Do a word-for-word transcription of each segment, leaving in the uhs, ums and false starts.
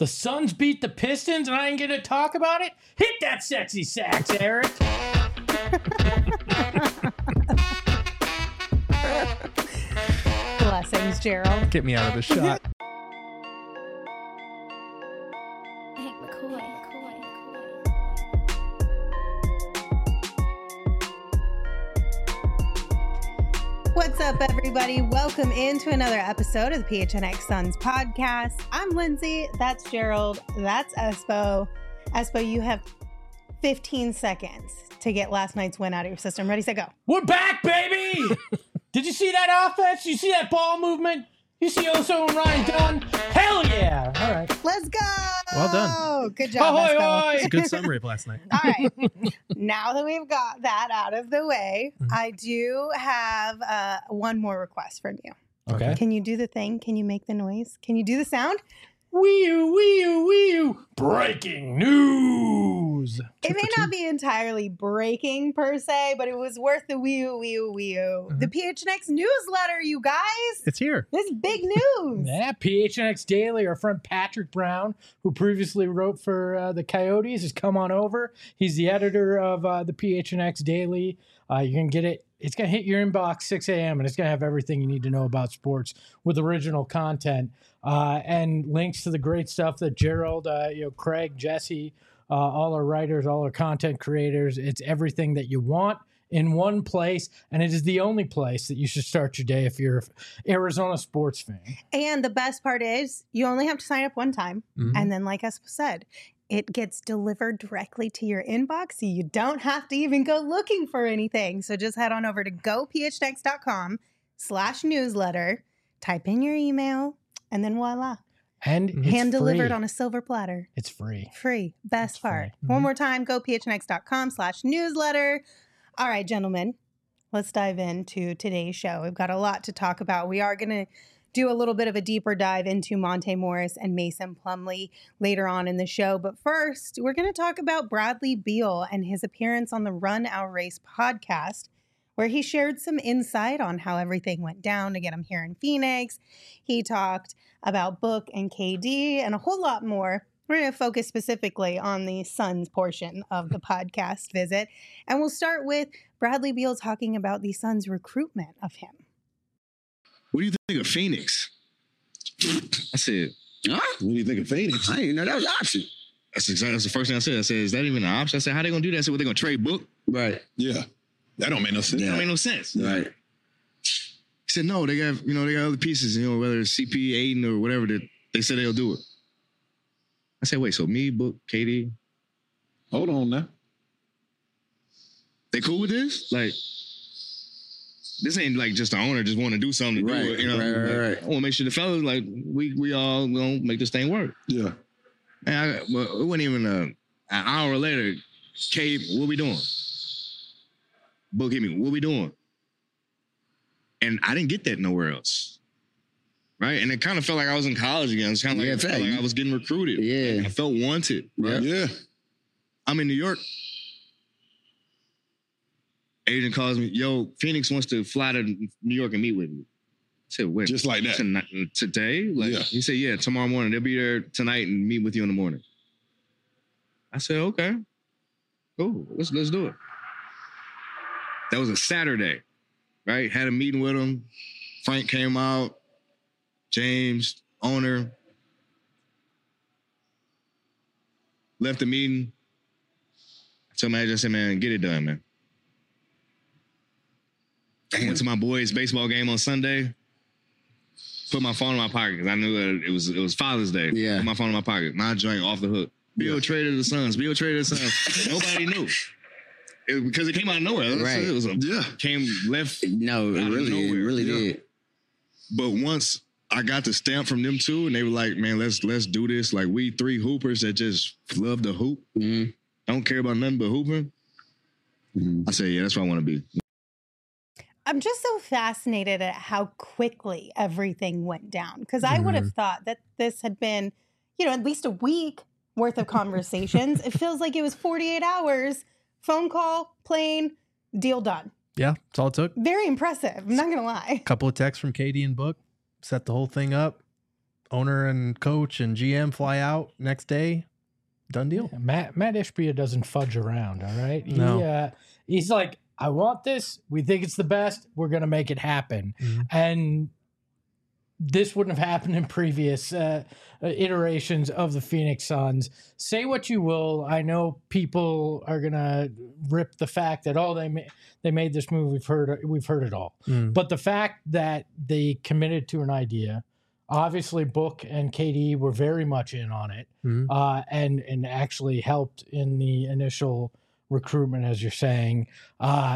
The Suns beat the Pistons and I ain't gonna talk about it? Hit that sexy sax, Eric. Blessings, Gerald. Get me out of the shot. Hank McCoy. What's up, everybody? Welcome into another episode of the P H N X Suns podcast. I'm Lindsay. That's Gerald. That's Espo. Espo, you have fifteen seconds to get last night's win out of your system. Ready, set, go. We're back, baby! Did you see that offense? You see that ball movement? You see Oso and Ryan Dunn? Hell yeah! All right. Let's go! Well done. Good job, Ahoy, Espo. ahoy. It's a good summary of last night. All right. Now that we've got that out of the way, Mhm. I do have uh, one more request from you. Okay. Can you do the thing? Can you make the noise? Can you do the sound? Wee-oo, wee-oo, wee-oo. Breaking news! It may not be entirely breaking per se, but it was worth the wee oo wee oo wee oo. Mhm. The P H N X newsletter, you guys. It's here. This is big news. Yeah, P H N X Daily, our friend Patrick Brown, who previously wrote for uh, the Coyotes, has come on over. He's the editor of uh, the P H N X Daily. Uh, you can get it. It's going to hit your inbox six a.m. and it's going to have everything you need to know about sports with original content uh, and links to the great stuff that Gerald, uh, you know, Craig, Jesse, uh, all our writers, all our content creators. It's everything that you want in one place, and it is the only place that you should start your day if you're an Arizona sports fan. And the best part is you only have to sign up one time. Mhm. And then, like Espo said, it gets delivered directly to your inbox. So you don't have to even go looking for anything. So just head on over to gophnx.com slash newsletter, type in your email, and then voila. And It's Hand delivered free. on a silver platter. It's free. Free. Best It's free. part. Mhm. One more time, gophnx.com slash newsletter. All right, gentlemen, let's dive into today's show. We've got a lot to talk about. We are going to do a little bit of a deeper dive into Monte Morris and Mason Plumlee later on in the show. But first, we're going to talk about Bradley Beal and his appearance on the Run Our Race podcast, where he shared some insight on how everything went down to get him here in Phoenix. He talked about Book and K D and a whole lot more. We're going to focus specifically on the Suns portion of the podcast visit. And we'll start with Bradley Beal talking about the Suns' recruitment of him. What do you think of Phoenix? I said, Huh? what do you think of Phoenix? I didn't know that was an option. That's exactly that's the first thing I said. I said, is that even an option? I said, how they gonna do that? I said, well, they gonna trade Book? Right. Yeah. That don't make no sense. That Yeah. don't make no sense. Right. He said, no, they got, you know, they got other pieces, you know, whether it's C P, Aiden, or whatever, that they said they'll do it. I said, wait, so me, Book, K D, Hold on now. they cool with this? Like, this ain't like just the owner just want to do something to Right, do it. You know, right, right, Like, right. I want to make sure the fellas, like, we we all gonna make this thing work. Yeah. And I, well, it wasn't even a, an hour later, K, what we doing? Book hit me, what we doing? And I didn't get that nowhere else. Right? And it kind of felt like I was in college again. It's kind of like, Yeah, I felt fact. like I was getting recruited. Yeah. I felt wanted. Right? Yeah. I'm in New York. Agent calls me, yo, Phoenix wants to fly to New York and meet with me. I said, when? Just like that. Tonight, today? Like, Yeah. He said, yeah, tomorrow morning. They'll be there tonight and meet with you in the morning. I said, okay. Cool. Let's let's do it. That was a Saturday, right? Had a meeting with him. Frank came out. James, owner. Left the meeting. I told my agent, I said, man, get it done, man. I went to my boys' baseball game on Sunday. Put my phone in my pocket because I knew that it was it was Father's Day. Yeah. Put my phone in my pocket. My joint off the hook. Bill Yeah. traded the Suns. Bill traded the Suns. Nobody knew. It, because it came out of nowhere. Right. It was a, Yeah. came left. No, it Out of really, it nowhere. really Yeah. did. But once I got the stamp from them two, and they were like, man, let's let's do this. Like, we three hoopers that just love to hoop. Mm-hmm. Don't care about nothing but hooping. Mm-hmm. I said, yeah, that's what I want to be. I'm just so fascinated at how quickly everything went down. Because I would have thought that this had been, you know, at least a week worth of conversations. It feels like it was forty-eight hours, phone call, plane, deal done. Yeah, that's all it took. Very impressive. I'm not going to lie. Couple of texts from K D and Book, set the whole thing up. owner and coach and G M fly out next day. Done deal. Yeah, Matt Matt Ishbia doesn't fudge around. All right, he, No. uh, he's like, I want this. We think it's the best. We're gonna make it happen. Mhm. And this wouldn't have happened in previous uh, uh, iterations of the Phoenix Suns. Say what you will. I know people are gonna rip the fact that oh they ma- they made this move. We've heard we've heard it all. Mm. But the fact that they committed to an idea, obviously Book and K D were very much in on it, Mhm. uh, and and actually helped in the initial recruitment, as you're saying. Uh,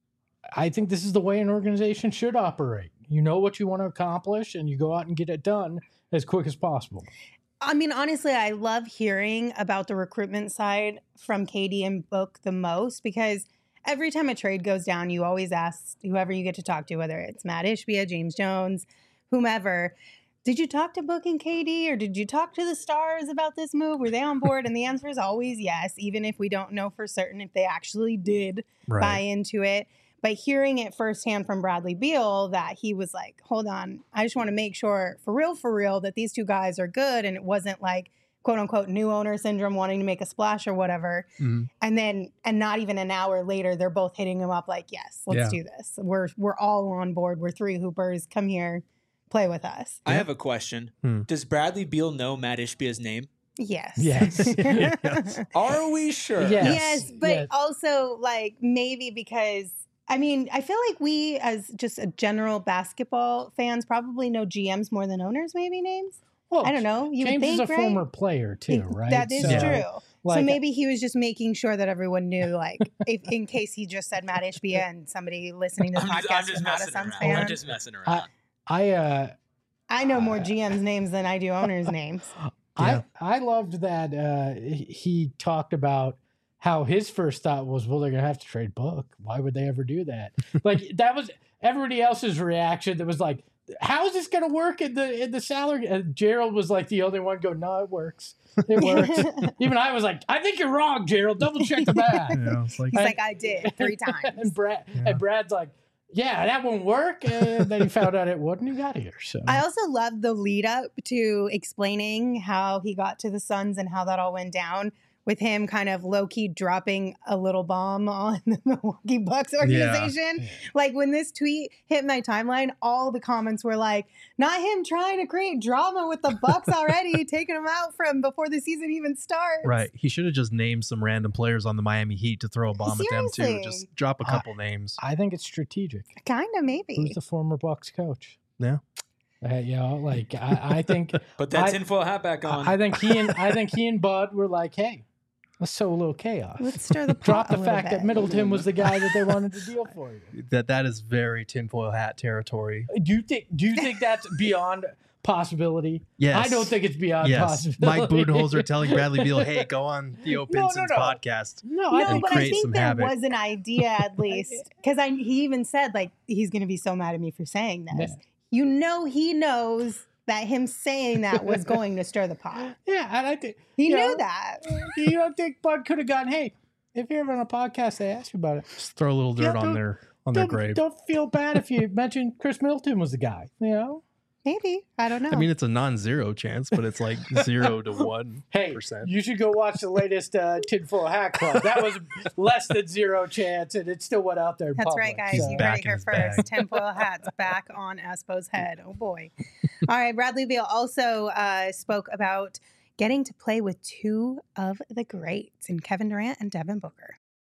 I think this is the way an organization should operate. You know what you want to accomplish, and you go out and get it done as quick as possible. I mean, honestly, I love hearing about the recruitment side from K D and Book the most because every time a trade goes down, you always ask whoever you get to talk to, whether it's Matt Ishbia, James Jones, whomever, did you talk to Book and K D or did you talk to the Stars about this move? Were they on board? And the answer is always yes, even if we don't know for certain if they actually did Right. buy into it. But hearing it firsthand from Bradley Beal that he was like, hold on, I just want to make sure for real, for real, that these two guys are good. And it wasn't like, quote unquote, new owner syndrome wanting to make a splash or whatever. Mhm. And then, and not even an hour later, they're both hitting him up like, yes, let's Yeah. do this. We're, we're all on board. We're three hoopers. Come here, play with us. I have a question. Hmm. Does Bradley Beal know Matt Ishbia's name? Yes. Yes. Yes. Are we sure? Yeah. Yes. Yes, but yes. also like maybe because I mean, I feel like we as just a general basketball fans probably know G Ms more than owners, maybe names. Well, I don't know. You James would think, is a right? former player too, right? That is So, true. like, so maybe he was just making sure that everyone knew, like, if, in case he just said Matt Ishbia and somebody listening to the I'm podcast just, I'm is just not a messing Suns around. fan. I'm just messing around. I uh, I know more G Ms names than I do owners names. Yeah. I I loved that uh, he he talked about how his first thought was, well, they're gonna have to trade Book. Why would they ever do that? Like that was everybody else's reaction. That was like, how is this gonna work in the in the salary? And Gerald was like the only one go, no, it works. It works. Even I was like, I think you're wrong, Gerald. Double check the math. Yeah, it's like, He's like, I did three times. and Brad Yeah. and Brad's like, yeah, that won't work. And then he found out it wouldn't. He got here. So I also love the lead up to explaining how he got to the Suns and how that all went down with him kind of low key dropping a little bomb on the Milwaukee Bucks organization. Yeah. Like when this tweet hit my timeline, all the comments were like, not him trying to create drama with the Bucks already, taking them out from before the season even starts. right. He should have just named some random players on the Miami Heat to throw a bomb at them too. Seriously. Just drop a Uh, couple names. I think it's strategic. Kind of, maybe. Who's the former Bucks coach? Yeah. Uh, you know, like I, I think Put that I- tinfoil hat back on. I think he and I think he and Bud were like, hey, let's sow a little chaos. Let's stir the pot Drop a the little fact that bit. Middleton was the guy that they wanted to deal for you. That that is very tinfoil hat territory. Do you think? Do you think that's beyond possibility? Yes. I don't think it's beyond Yes. possibility. Mike Budenholzer telling Bradley Beal, hey, go on Theo No, no, Pinson's no. podcast. No, I No, and but I create think some there havoc. was an idea at least because I he even said like he's going to be so mad at me for saying this. Yeah. You know, he knows that him saying that was going to stir the pot. yeah, and I think He you knew know, that. You don't think Bud could have gone? Hey, if you're ever on a podcast, they ask you about it. Just throw a little dirt Yeah, on don't- their on their Don't, grave. don't feel bad if you mention Chris Middleton was the guy. You know. Maybe I don't know. I mean, it's a non-zero chance, but it's like zero to one Hey, percent. you should go watch the latest uh, Tinfoil Hat Club. That was less than zero chance, and it still went out there. In That's public, right, guys. He's so- You heard back it in here his first. bag. Tinfoil hats back on Espo's head. Oh boy! All right, Bradley Beal also uh, spoke about getting to play with two of the greats, in Kevin Durant and Devin Booker.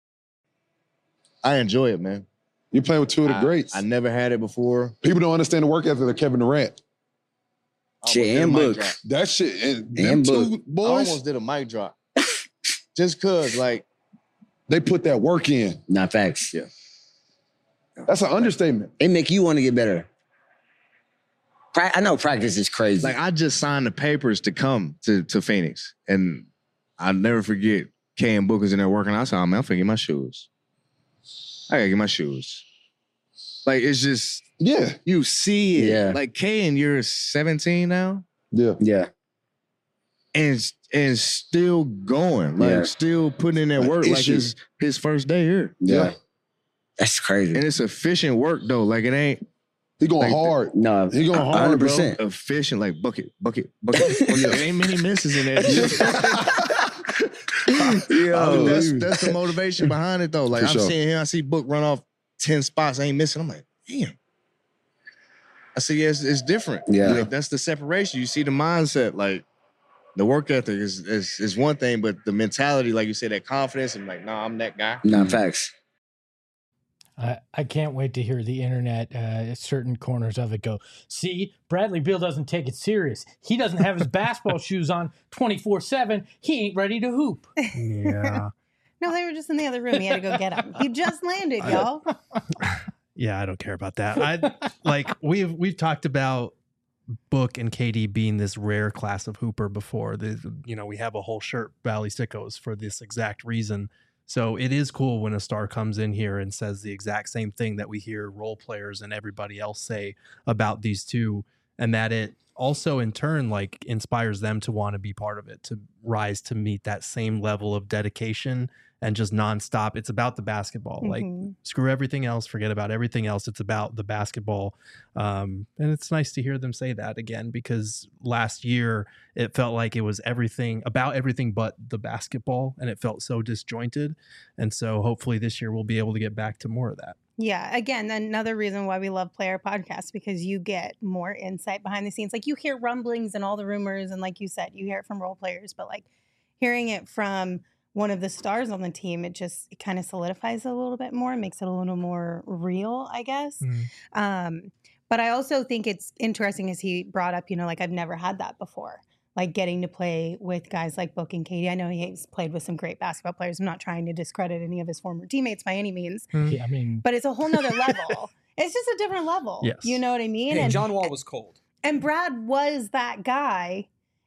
I enjoy it, man. You play with two of the I- greats. I never had it before. People don't understand the work ethic of Kevin Durant. I Shit, almost did a and mic Book. drop. That shit, and them And two I boys, almost did a mic drop. Just cause, like, they put that work in. Not facts. Yeah. That's an understatement. It make you want to get better. Pra- I know practice is crazy. like I just signed the papers to come to, to Phoenix. And I'll never forget K and Booker's in there working. I said, oh, man, I'm finna get my shoes. I gotta get my shoes. Like, it's just, Yeah, you see it. Yeah. Like, K and you're seventeen now. yeah. yeah. And and still going, like Yeah. still putting in that Like work, like issues. his his first day here. Yeah. Yeah. That's crazy. And it's efficient work though. Like it ain't He going Like, hard. No, He going hard, one hundred bro. percent. Efficient, like bucket, bucket, bucket. There ain't many misses in that. Yo, Oh, that's that's the motivation behind it though. Like For I'm sure. seeing him, I see Book run off ten spots, ain't missing. I'm like, damn. I see, yeah, it's, it's different. Yeah. Like, that's the separation. You see the mindset, like the work ethic is, is is one thing, but the mentality, like you said, that confidence and like, nah, I'm that guy. Nah, facts. I, I can't wait to hear the internet, uh, certain corners of it go, see, Bradley Beal doesn't take it serious. He doesn't have his basketball shoes on twenty-four seven. He ain't ready to hoop. Yeah. No, they were just in the other room. He had to go get them. He just landed, y'all. Yeah, I don't care about that. I like we've we've talked about Book and K D being this rare class of hooper before. The, you know, we have a whole shirt, Valley Sickos, for this exact reason. So it is cool when a star comes in here and says the exact same thing that we hear role players and everybody else say about these two, and that it also in turn like inspires them to want to be part of it, to rise to meet that same level of dedication and just nonstop. It's about the basketball. Like Mhm. screw everything else, forget about everything else. It's about the basketball. Um, and it's nice to hear them say that again, because last year it felt like it was everything about everything but the basketball, and it felt so disjointed. And so hopefully this year we'll be able to get back to more of that. Yeah, again, another reason why we love Player Podcasts, because you get more insight behind the scenes. Like you hear rumblings and all the rumors, and like you said, you hear it from role players, but like hearing it from one of the stars on the team, it just it kind of solidifies it a little bit more, makes it a little more real, I guess. Mhm. Um, but I also think it's interesting as he brought up, you know, like I've never had that before. Like getting to play with guys like Book and Katie. I know he's played with some great basketball players. I'm not trying to discredit any of his former teammates by any means, Yeah, I mean, but it's a whole nother level. It's just a different level. Yes. You know what I mean? Hey, and, John Wall was cold. and Brad was that guy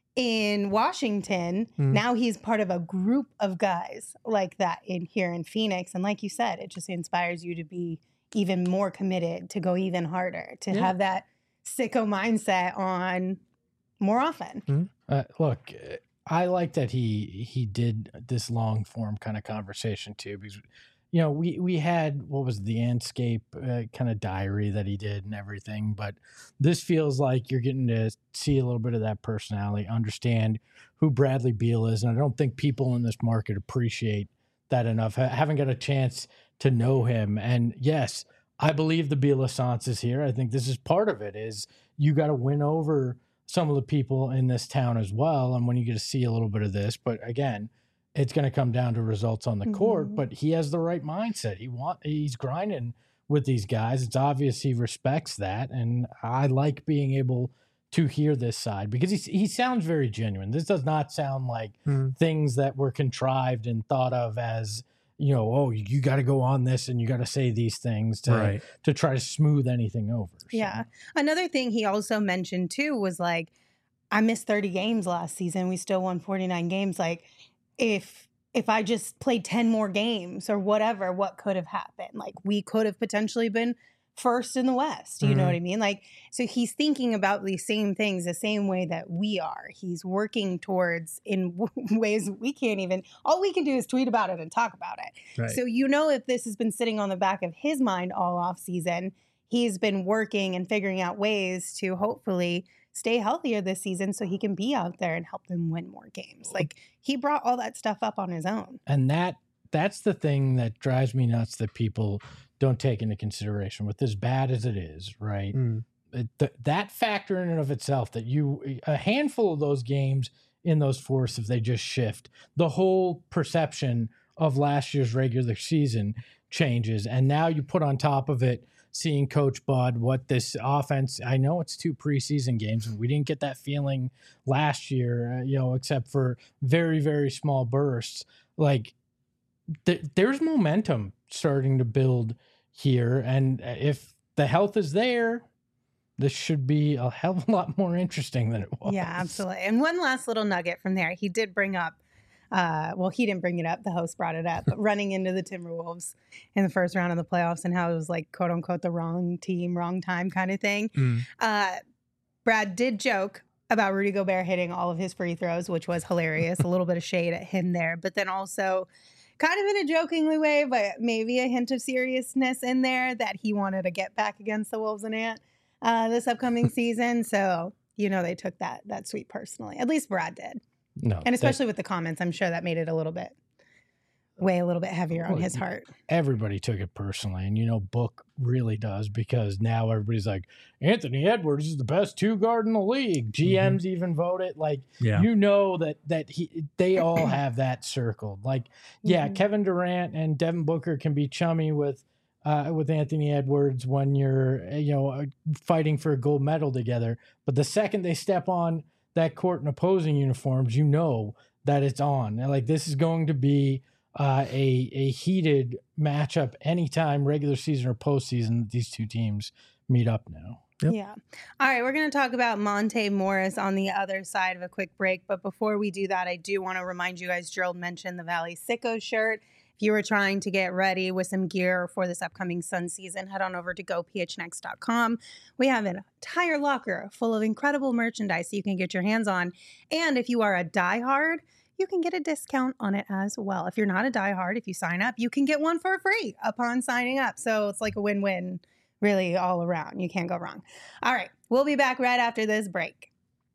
in Washington. Mhm. Now he's part of a group of guys like that in here in Phoenix. And like you said, it just inspires you to be even more committed, to go even harder, to Yeah. have that sicko mindset on more often. Uh, look, uh, I like that he he did this long form kind of conversation too, because you know we we had what was the Andscape uh, kind of diary that he did and everything, but this feels like you're getting to see a little bit of that personality, understand who Bradley Beal is, and I don't think people in this market appreciate that enough. Ha- haven't got a chance to know him, and yes, I believe the Beal Assance is here. I think this is part of it. Is you got to win over some of the people in this town as well. And when you get to see a little bit of this, but again, it's going to come down to results on the court, Mhm. but he has the right mindset. He want, he's grinding with these guys. It's obvious he respects that. And I like being able to hear this side because he, he sounds very genuine. This does not sound like Mhm. things that were contrived and thought of as, you know, oh, you got to go on this and you got to say these things to, Right. to try to smooth anything over. So, Yeah. Another thing he also mentioned too was like, I missed thirty games last season. We still won forty-nine games. Like, if if I just played ten more games or whatever, what could have happened? Like, we could have potentially been first in the West. You know Mhm. what I mean? Like, so he's thinking about these same things the same way that we are. He's working towards in w- ways we can't even, all we can do is tweet about it and talk about it. Right. So, you know, if this has been sitting on the back of his mind all off season, he's been working and figuring out ways to hopefully stay healthier this season so he can be out there and help them win more games. Like he brought all that stuff up on his own. And that that's the thing that drives me nuts that people don't take into consideration with as bad as it is, right? Mm. It, th- that factor in and of itself, that you a handful of those games in those fourths, if they just shift, the whole perception of last year's regular season changes. And now you put on top of it seeing Coach Bud, what this offense, I know it's two preseason games, and we didn't get that feeling last year, uh, you know, except for very, very small bursts. Like, th- there's momentum starting to build here. And if the health is there, this should be a hell of a lot more interesting than it was. Yeah, absolutely. And one last little nugget from there. He did bring up, uh, well, he didn't bring it up. The host brought it up, but running into the Timberwolves in the first round of the playoffs and how it was like, quote unquote, the wrong team, wrong time kind of thing. Mm. Uh, Brad did joke about Rudy Gobert hitting all of his free throws, which was hilarious. A little bit of shade at him there, but then also kind of in a jokingly way, but maybe a hint of seriousness in there that he wanted to get back against the Wolves and Ant. uh, this upcoming season. So, you know, they took that that sweep personally. At least Brad did. No, And that- especially with the comments, I'm sure that made it a little bit, way a little bit heavier on Well, his heart. everybody took it personally, and you know Book really does, because now everybody's like, Anthony Edwards is the best two guard in the league. G Ms even vote it. Like, Yeah. you know that that he they all have that circled. Like, yeah, Mhm. Kevin Durant and Devin Booker can be chummy with uh, with Anthony Edwards when you're uh, you know uh, fighting for a gold medal together, but the second they step on that court in opposing uniforms, you know that it's on. And, like, this is going to be uh, a a heated matchup anytime regular season or postseason that these two teams meet up now. Yep. Yeah. All right. We're going to talk about Monte Morris on the other side of a quick break. But before we do that, I do want to remind you guys, Gerald mentioned the Valley Sicko shirt. If you were trying to get ready with some gear for this upcoming sun season, head on over to go p h n x dot com. We have an entire locker full of incredible merchandise that you can get your hands on. And if you are a diehard, you can get a discount on it as well. If you're not a diehard, if you sign up, you can get one for free upon signing up. So it's like a win-win really all around. You can't go wrong. All right. We'll be back right after this break.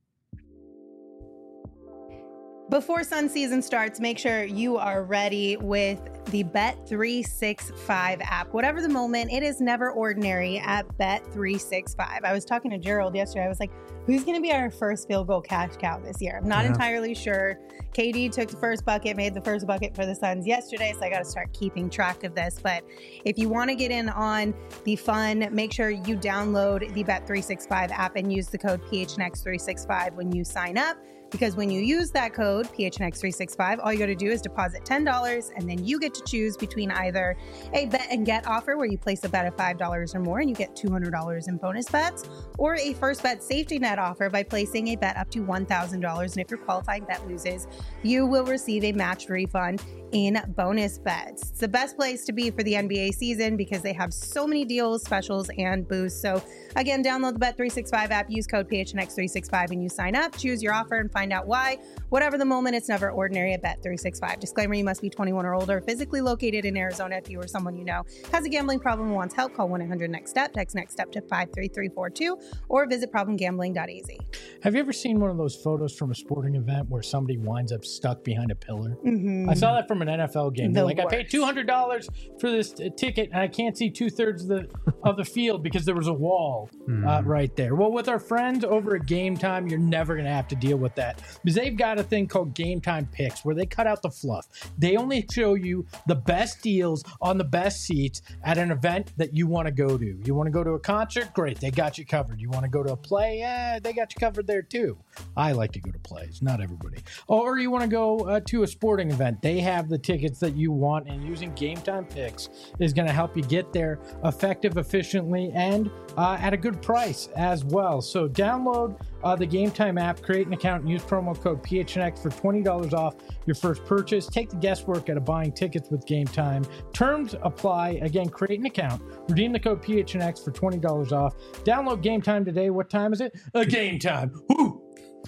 Before sun season starts, make sure you are ready with the Bet three sixty-five app. Whatever the moment, it is never ordinary at Bet three sixty-five. I was talking to Gerald yesterday. I was like, who's going to be our first field goal cash cow this year? I'm not Yeah. entirely sure. K D took the first bucket, made the first bucket for the Suns yesterday, so I got to start keeping track of this. But if you want to get in on the fun, make sure you download the Bet three sixty-five app and use the code P H N X three sixty-five when you sign up. Because when you use that code, P H N X three sixty-five, all you got to do is deposit ten dollars, and then you get to choose between either a bet and get offer where you place a bet of five dollars or more and you get two hundred dollars in bonus bets, or a first bet safety net offer by placing a bet up to one thousand dollars. And if your qualifying bet loses, you will receive a matched refund in bonus bets. It's the best place to be for the N B A season because they have so many deals, specials, and boosts. So again, download the Bet three sixty-five app, use code P H N X three sixty-five when you sign up, choose your offer, and find out why. Whatever the moment, it's never ordinary at Bet three sixty-five. Disclaimer, you must be twenty-one or older, physically located in Arizona. If you or someone you know has a gambling problem and wants help, call one eight hundred next step, text next step to five three three four two, or visit problem gambling dot a z. Have you ever seen one of those photos from a sporting event where somebody winds up stuck behind a pillar? Mm-hmm. I saw that from an N F L game. The They're like, I paid worst. two hundred dollars for this t- ticket, and I can't see two thirds of the of the field because there was a wall uh, right there. Well, with our friends over at Game Time, you're never going to have to deal with that because they've got a thing called Game Time Picks where they cut out the fluff. They only show you the best deals on the best seats at an event that you want to go to. You want to go to a concert? Great, they got you covered. You want to go to a play? Yeah, they got you covered there too. I like to go to plays, not everybody. Or you want to go uh, to a sporting event? They have the tickets that you want, and using Game Time Picks is going to help you get there effective, efficiently, and uh, at a good price as well. So download uh, the Game Time app, create an account, and use promo code P H N X for twenty dollars off your first purchase. Take the guesswork out of buying tickets with Game Time. Terms apply. Again, create an account, redeem the code P H N X for twenty dollars off. Download Game Time today. What time is it? A Game Time. Woo!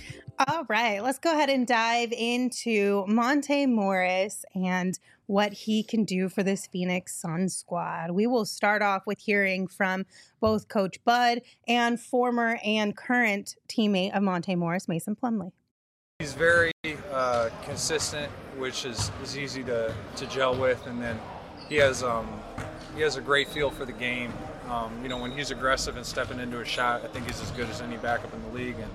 All right, let's go ahead and dive into Monte Morris and what he can do for this Phoenix Suns squad. We will start off with hearing from both Coach Bud and former and current teammate of Monte Morris, Mason Plumlee. He's very uh, consistent, which is, is easy to, to gel with, and then he has um, he has a great feel for the game. Um, you know, when he's aggressive and stepping into a shot, I think he's as good as any backup in the league, and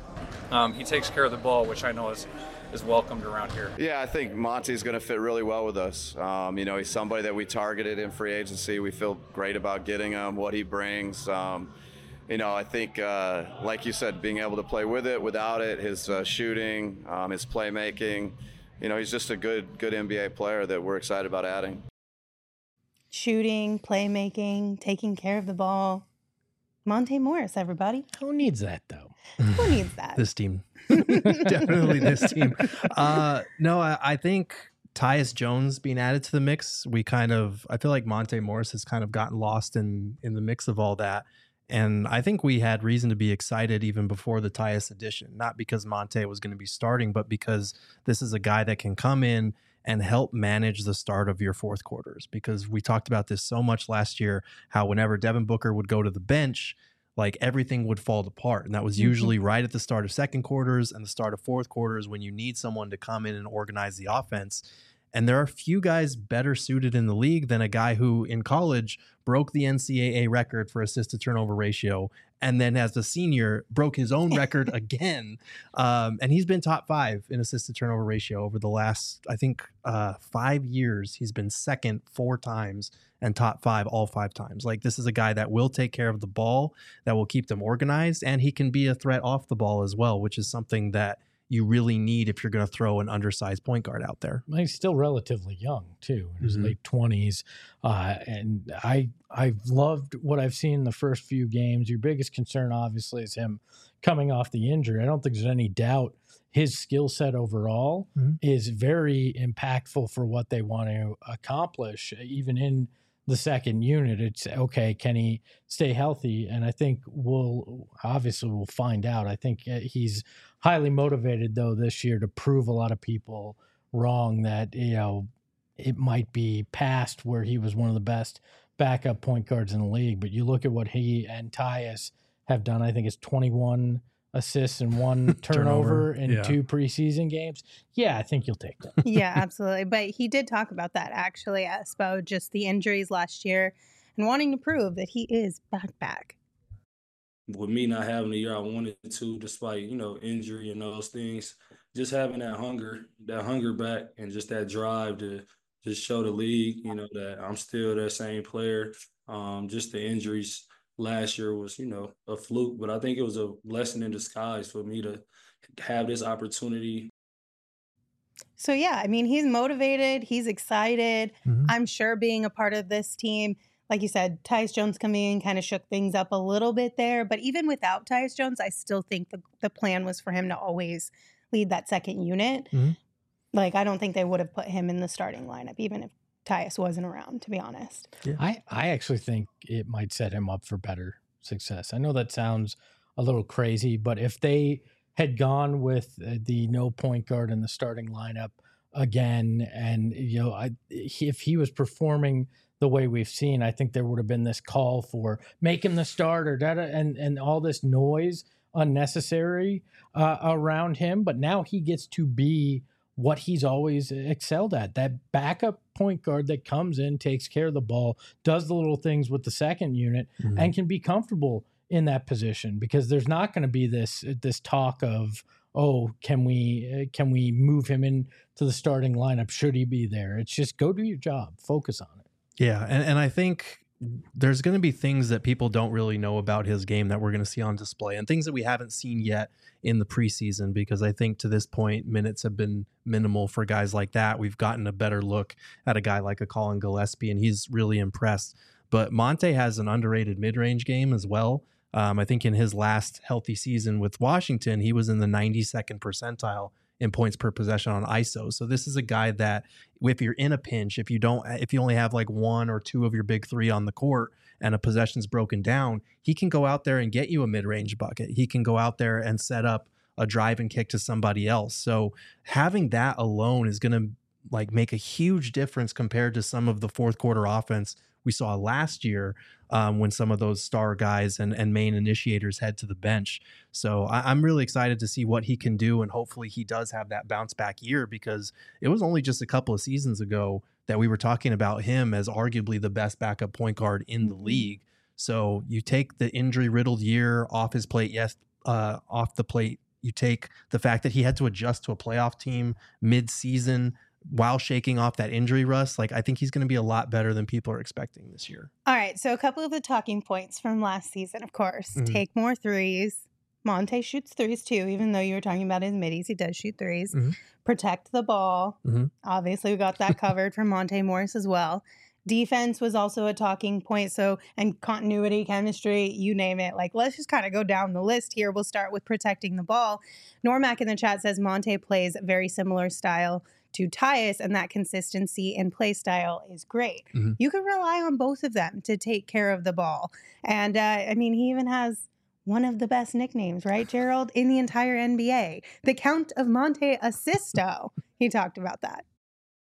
um, he takes care of the ball, which I know is is welcomed around here. Yeah, I think Monty's going to fit really well with us. Um, you know, he's somebody that we targeted in free agency. We feel great about getting him, what he brings. Um, you know, I think, uh, like you said, being able to play with it, without it, his uh, shooting, um, his playmaking. You know, he's just a good, good N B A player that we're excited about adding. Shooting, playmaking, taking care of the ball. Monte Morris, everybody. Who needs that, though? Who needs that? This team. Definitely this team. Uh, no, I, I think Tyus Jones being added to the mix, we kind of, I feel like Monte Morris has kind of gotten lost in, in the mix of all that. And I think we had reason to be excited even before the Tyus addition, not because Monte was going to be starting, but because this is a guy that can come in and help manage the start of your fourth quarters. Because we talked about this so much last year, how whenever Devin Booker would go to the bench, like everything would fall apart. And that was usually mm-hmm. right at the start of second quarters and the start of fourth quarters when you need someone to come in and organize the offense. And there are few guys better suited in the league than a guy who in college broke the N C double A record for assist to turnover ratio. And then as a senior broke his own record again. Um, and he's been top five in assist to turnover ratio over the last, I think, uh, five years. He's been second four times and top five all five times. Like, this is a guy that will take care of the ball, that will keep them organized, and he can be a threat off the ball as well, which is something that you really need if you're going to throw an undersized point guard out there. He's still relatively young too, in his mm-hmm. late twenties. Uh, and I, I've loved what I've seen in the first few games. Your biggest concern obviously is him coming off the injury. I don't think there's any doubt his skill set overall mm-hmm. is very impactful for what they want to accomplish, even in the second unit. It's okay, can he stay healthy? And I think we'll obviously we'll find out. I think he's highly motivated though this year to prove a lot of people wrong, that, you know, it might be past where he was one of the best backup point guards in the league. But you look at what he and Tyus have done. I think it's twenty-one assists and one turnover, turnover in yeah. two preseason games. Yeah, I think you'll take that. Yeah, absolutely. But he did talk about that actually, Espo, just the injuries last year and wanting to prove that he is back back. With me not having the year I wanted to, despite, you know, injury and those things, just having that hunger, that hunger back, and just that drive to just show the league, you know, that I'm still that same player. Um, just the injuries last year was, you know, a fluke, but I think it was a blessing in disguise for me to have this opportunity. So, yeah, I mean, he's motivated. He's excited. Mm-hmm. I'm sure being a part of this team, like you said, Tyus Jones coming in kind of shook things up a little bit there. But even without Tyus Jones, I still think the, the plan was for him to always lead that second unit. Mm-hmm. Like, I don't think they would have put him in the starting lineup, even if Tyus wasn't around, to be honest. Yeah. I, I actually think it might set him up for better success. I know that sounds a little crazy, but if they had gone with the no point guard in the starting lineup again, and, you know, I, if he was performing the way we've seen, I think there would have been this call for make him the starter, and, and all this noise unnecessary uh, around him. But now he gets to be what he's always excelled at, that backup point guard that comes in, takes care of the ball, does the little things with the second unit, mm-hmm. and can be comfortable in that position, because there's not going to be this this talk of, oh, can we can we move him into the starting lineup? Should he be there? It's just go do your job, focus on it. Yeah, and, and I think there's going to be things that people don't really know about his game that we're going to see on display, and things that we haven't seen yet in the preseason, because I think to this point, minutes have been minimal for guys like that. We've gotten a better look at a guy like a Colin Gillespie, and he's really impressed. But Monte has an underrated mid-range game as well. Um, I think in his last healthy season with Washington, he was in the ninety-second percentile in points per possession on I S O. So this is a guy that if you're in a pinch, if you don't, if you only have like one or two of your big three on the court and a possession's broken down, he can go out there and get you a mid-range bucket. He can go out there and set up a drive and kick to somebody else. So having that alone is going to like make a huge difference compared to some of the fourth quarter offense we saw last year um, when some of those star guys and, and main initiators head to the bench. So I, I'm really excited to see what he can do, and hopefully he does have that bounce back year, because it was only just a couple of seasons ago that we were talking about him as arguably the best backup point guard in the league. So you take the injury riddled year off his plate, yes, uh, off the plate. You take the fact that he had to adjust to a playoff team mid-season while shaking off that injury rust. Like, I think he's going to be a lot better than people are expecting this year. All right, so a couple of the talking points from last season, of course. Mm-hmm. Take more threes. Monte shoots threes too, even though you were talking about his middies, he does shoot threes. Mm-hmm. Protect the ball. Mm-hmm. Obviously, we got that covered from Monte Morris as well. Defense was also a talking point. So, and continuity, chemistry, you name it. Like, let's just kind of go down the list here. We'll start with protecting the ball. Normac in the chat says Monte plays a very similar style to Tyus, and that consistency and play style is great. Mm-hmm. You can rely on both of them to take care of the ball. And, uh, I mean, he even has one of the best nicknames, right, Gerald, in the entire N B A. The Count of Monte Assisto. He talked about that.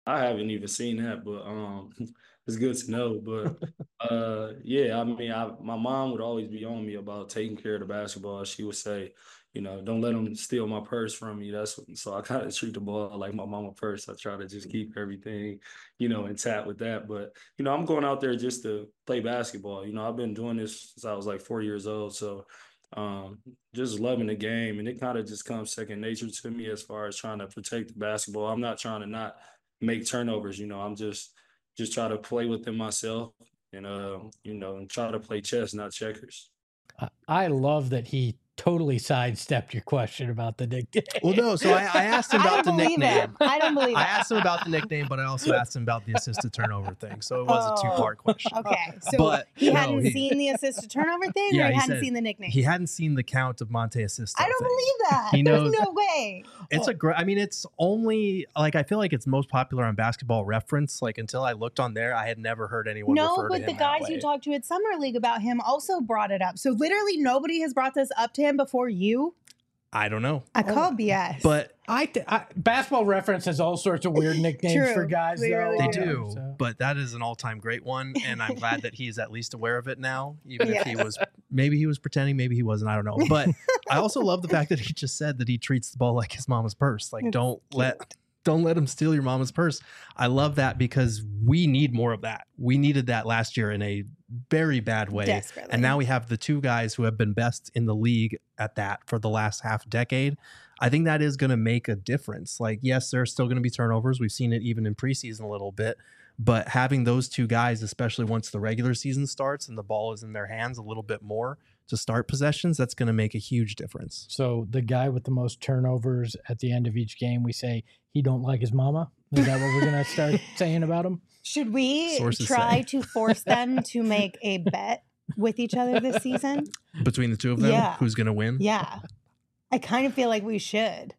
I haven't even seen that, but um, it's good to know. But uh, yeah, I mean, I, my mom would always be on me about taking care of the basketball. She would say, you know, don't let them steal my purse from me. That's so I kind of treat the ball like my mama purse. I try to just keep everything, you know, intact with that. But you know, I'm going out there just to play basketball. You know, I've been doing this since I was like four years old, so um, just loving the game, and it kind of just comes second nature to me as far as trying to protect the basketball. I'm not trying to not make turnovers. You know, I'm just just try to play within myself and uh, you know, and try to play chess, not checkers. I- I love that he totally sidestepped your question about the nickname. Well, no. So I, I asked him I about don't the believe nickname. it. I don't believe I it. asked him about the nickname, but I also asked him about the assisted turnover thing. So it was a two part question. Okay, so But, he no, hadn't he- seen the assisted turnover thing, Yeah, or he, he hadn't said seen the nickname. He hadn't seen the count of Monte assists. I don't thing. believe that. He knows- There's no way. It's a great. I mean, it's only like I feel like it's most popular on Basketball Reference. Like until I looked on there, I had never heard anyone No, refer to but him the that guys way. you talked to at Summer League about him also brought it up. So literally nobody has brought this up to him before you. I don't know, I call B S. but I, th- I Basketball Reference has all sorts of weird nicknames True. for guys. They though. really they Uh, do. so- But that is an all-time great one, and I'm glad that he's at least aware of it now. Even if he Yes. was, maybe he was pretending, maybe he wasn't. I don't know. But I also love the fact that he just said that he treats the ball like his mama's purse. Like It's don't cute. let. Don't let him steal your mama's purse. I love that because we need more of that. We needed that last year in a very bad way. Desperately. And now we have the two guys who have been best in the league at that for the last half decade. I think that is going to make a difference. Like, yes, there's still going to be turnovers. We've seen it even in preseason a little bit. But having those two guys, especially once the regular season starts and the ball is in their hands a little bit more to start possessions, that's going to make a huge difference. So the guy with the most turnovers at the end of each game, we say he don't like his mama. Is that what we're gonna start saying about him? Should we Sources try say. to force them to make a bet with each other this season? Between the two of them, Yeah. who's going to win? Yeah. I kind of feel like we should.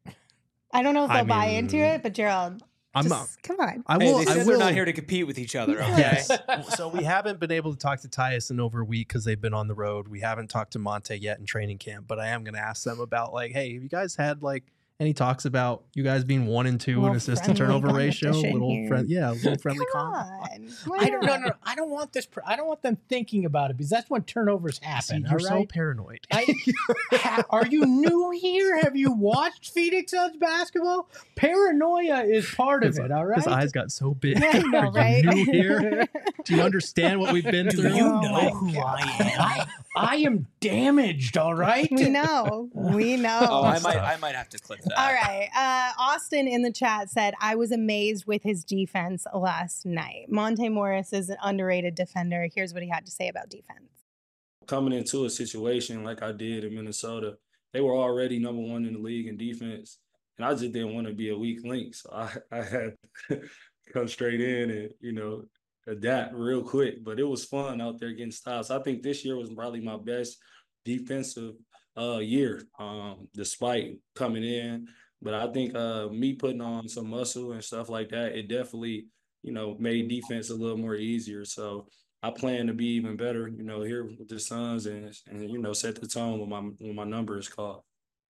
I don't know if I they'll buy into mean, it, but Gerald, I'm just, come on. I Hey, will. they I said will. they're not here to compete with each other. Okay. Yes. So we haven't been able to talk to Tyus in over a week because they've been on the road. We haven't talked to Monte yet in training camp, but I am going to ask them about like, hey, have you guys had like any talks about you guys being one and two in Little assist to friendly turnover ratio? competition Little here. friend, yeah, a little friendly Come comp. on. I don't. No, no, I don't want this. I don't want them thinking about it because that's when turnovers See, happen. you're all so right? paranoid. I, ha, are you new here? Have you watched Phoenix Suns basketball? Paranoia is part of His, it. All right. his eyes got so big. Yeah, I know, Are you right? new here? Do you understand what we've been Do through? you Oh know my who I am? I, I am damaged. All right. We know. We know. Oh, I might, I might have to clip that. All right. Uh, Austin in the chat said, I was amazed with his defense last night. Monte Morris is an underrated defender. Here's what he had to say about defense. Coming into a situation like I did in Minnesota, they were already number one in the league in defense, and I just didn't want to be a weak link. So I, I had to come straight in and, you know, adapt real quick. But it was fun out there getting stops. I think this year was probably my best defensive uh, year, um, despite coming in. But I think uh, me putting on some muscle and stuff like that, it definitely, you know, made defense a little more easier. So I plan to be even better, you know, here with the Suns and, and you know, set the tone when my when my number is called.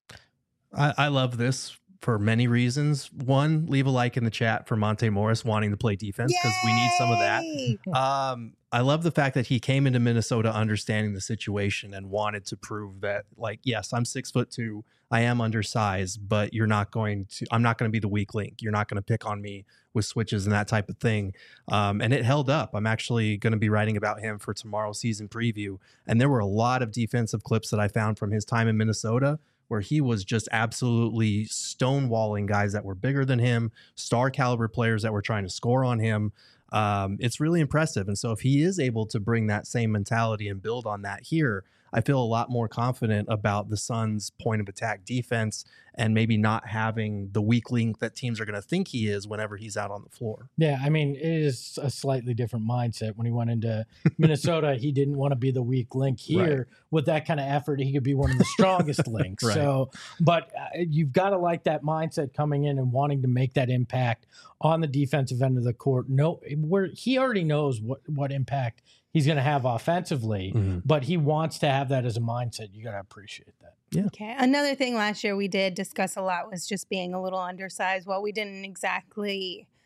I, I love this for many reasons. One, leave a like in the chat for Monte Morris wanting to play defense because we need some of that. Yay! Um, I love the fact that he came into Minnesota understanding the situation and wanted to prove that, like, yes, I'm six foot two, I am undersized, but you're not going to, I'm not going to be the weak link. You're not going to pick on me with switches and that type of thing. Um, and it held up. I'm actually going to be writing about him for tomorrow's season preview. And there were a lot of defensive clips that I found from his time in Minnesota where he was just absolutely stonewalling guys that were bigger than him, star caliber players that were trying to score on him. Um, it's really impressive. And so if he is able to bring that same mentality and build on that here, I feel a lot more confident about the Suns' point of attack defense and maybe not having the weak link that teams are going to think he is whenever he's out on the floor. Yeah, I mean, it is a slightly different mindset. When he went into Minnesota, he didn't want to be the weak link. Here, Right. with that kind of effort, he could be one of the strongest links. Right. So, but uh, you've got to like that mindset coming in and wanting to make that impact on the defensive end of the court. No, where he already knows what what impact he's going to have offensively, Mm-hmm. but he wants to have that as a mindset. You got to appreciate that. Yeah. Okay. Another thing last year we did discuss a lot was just being a little undersized. Well, we didn't exactly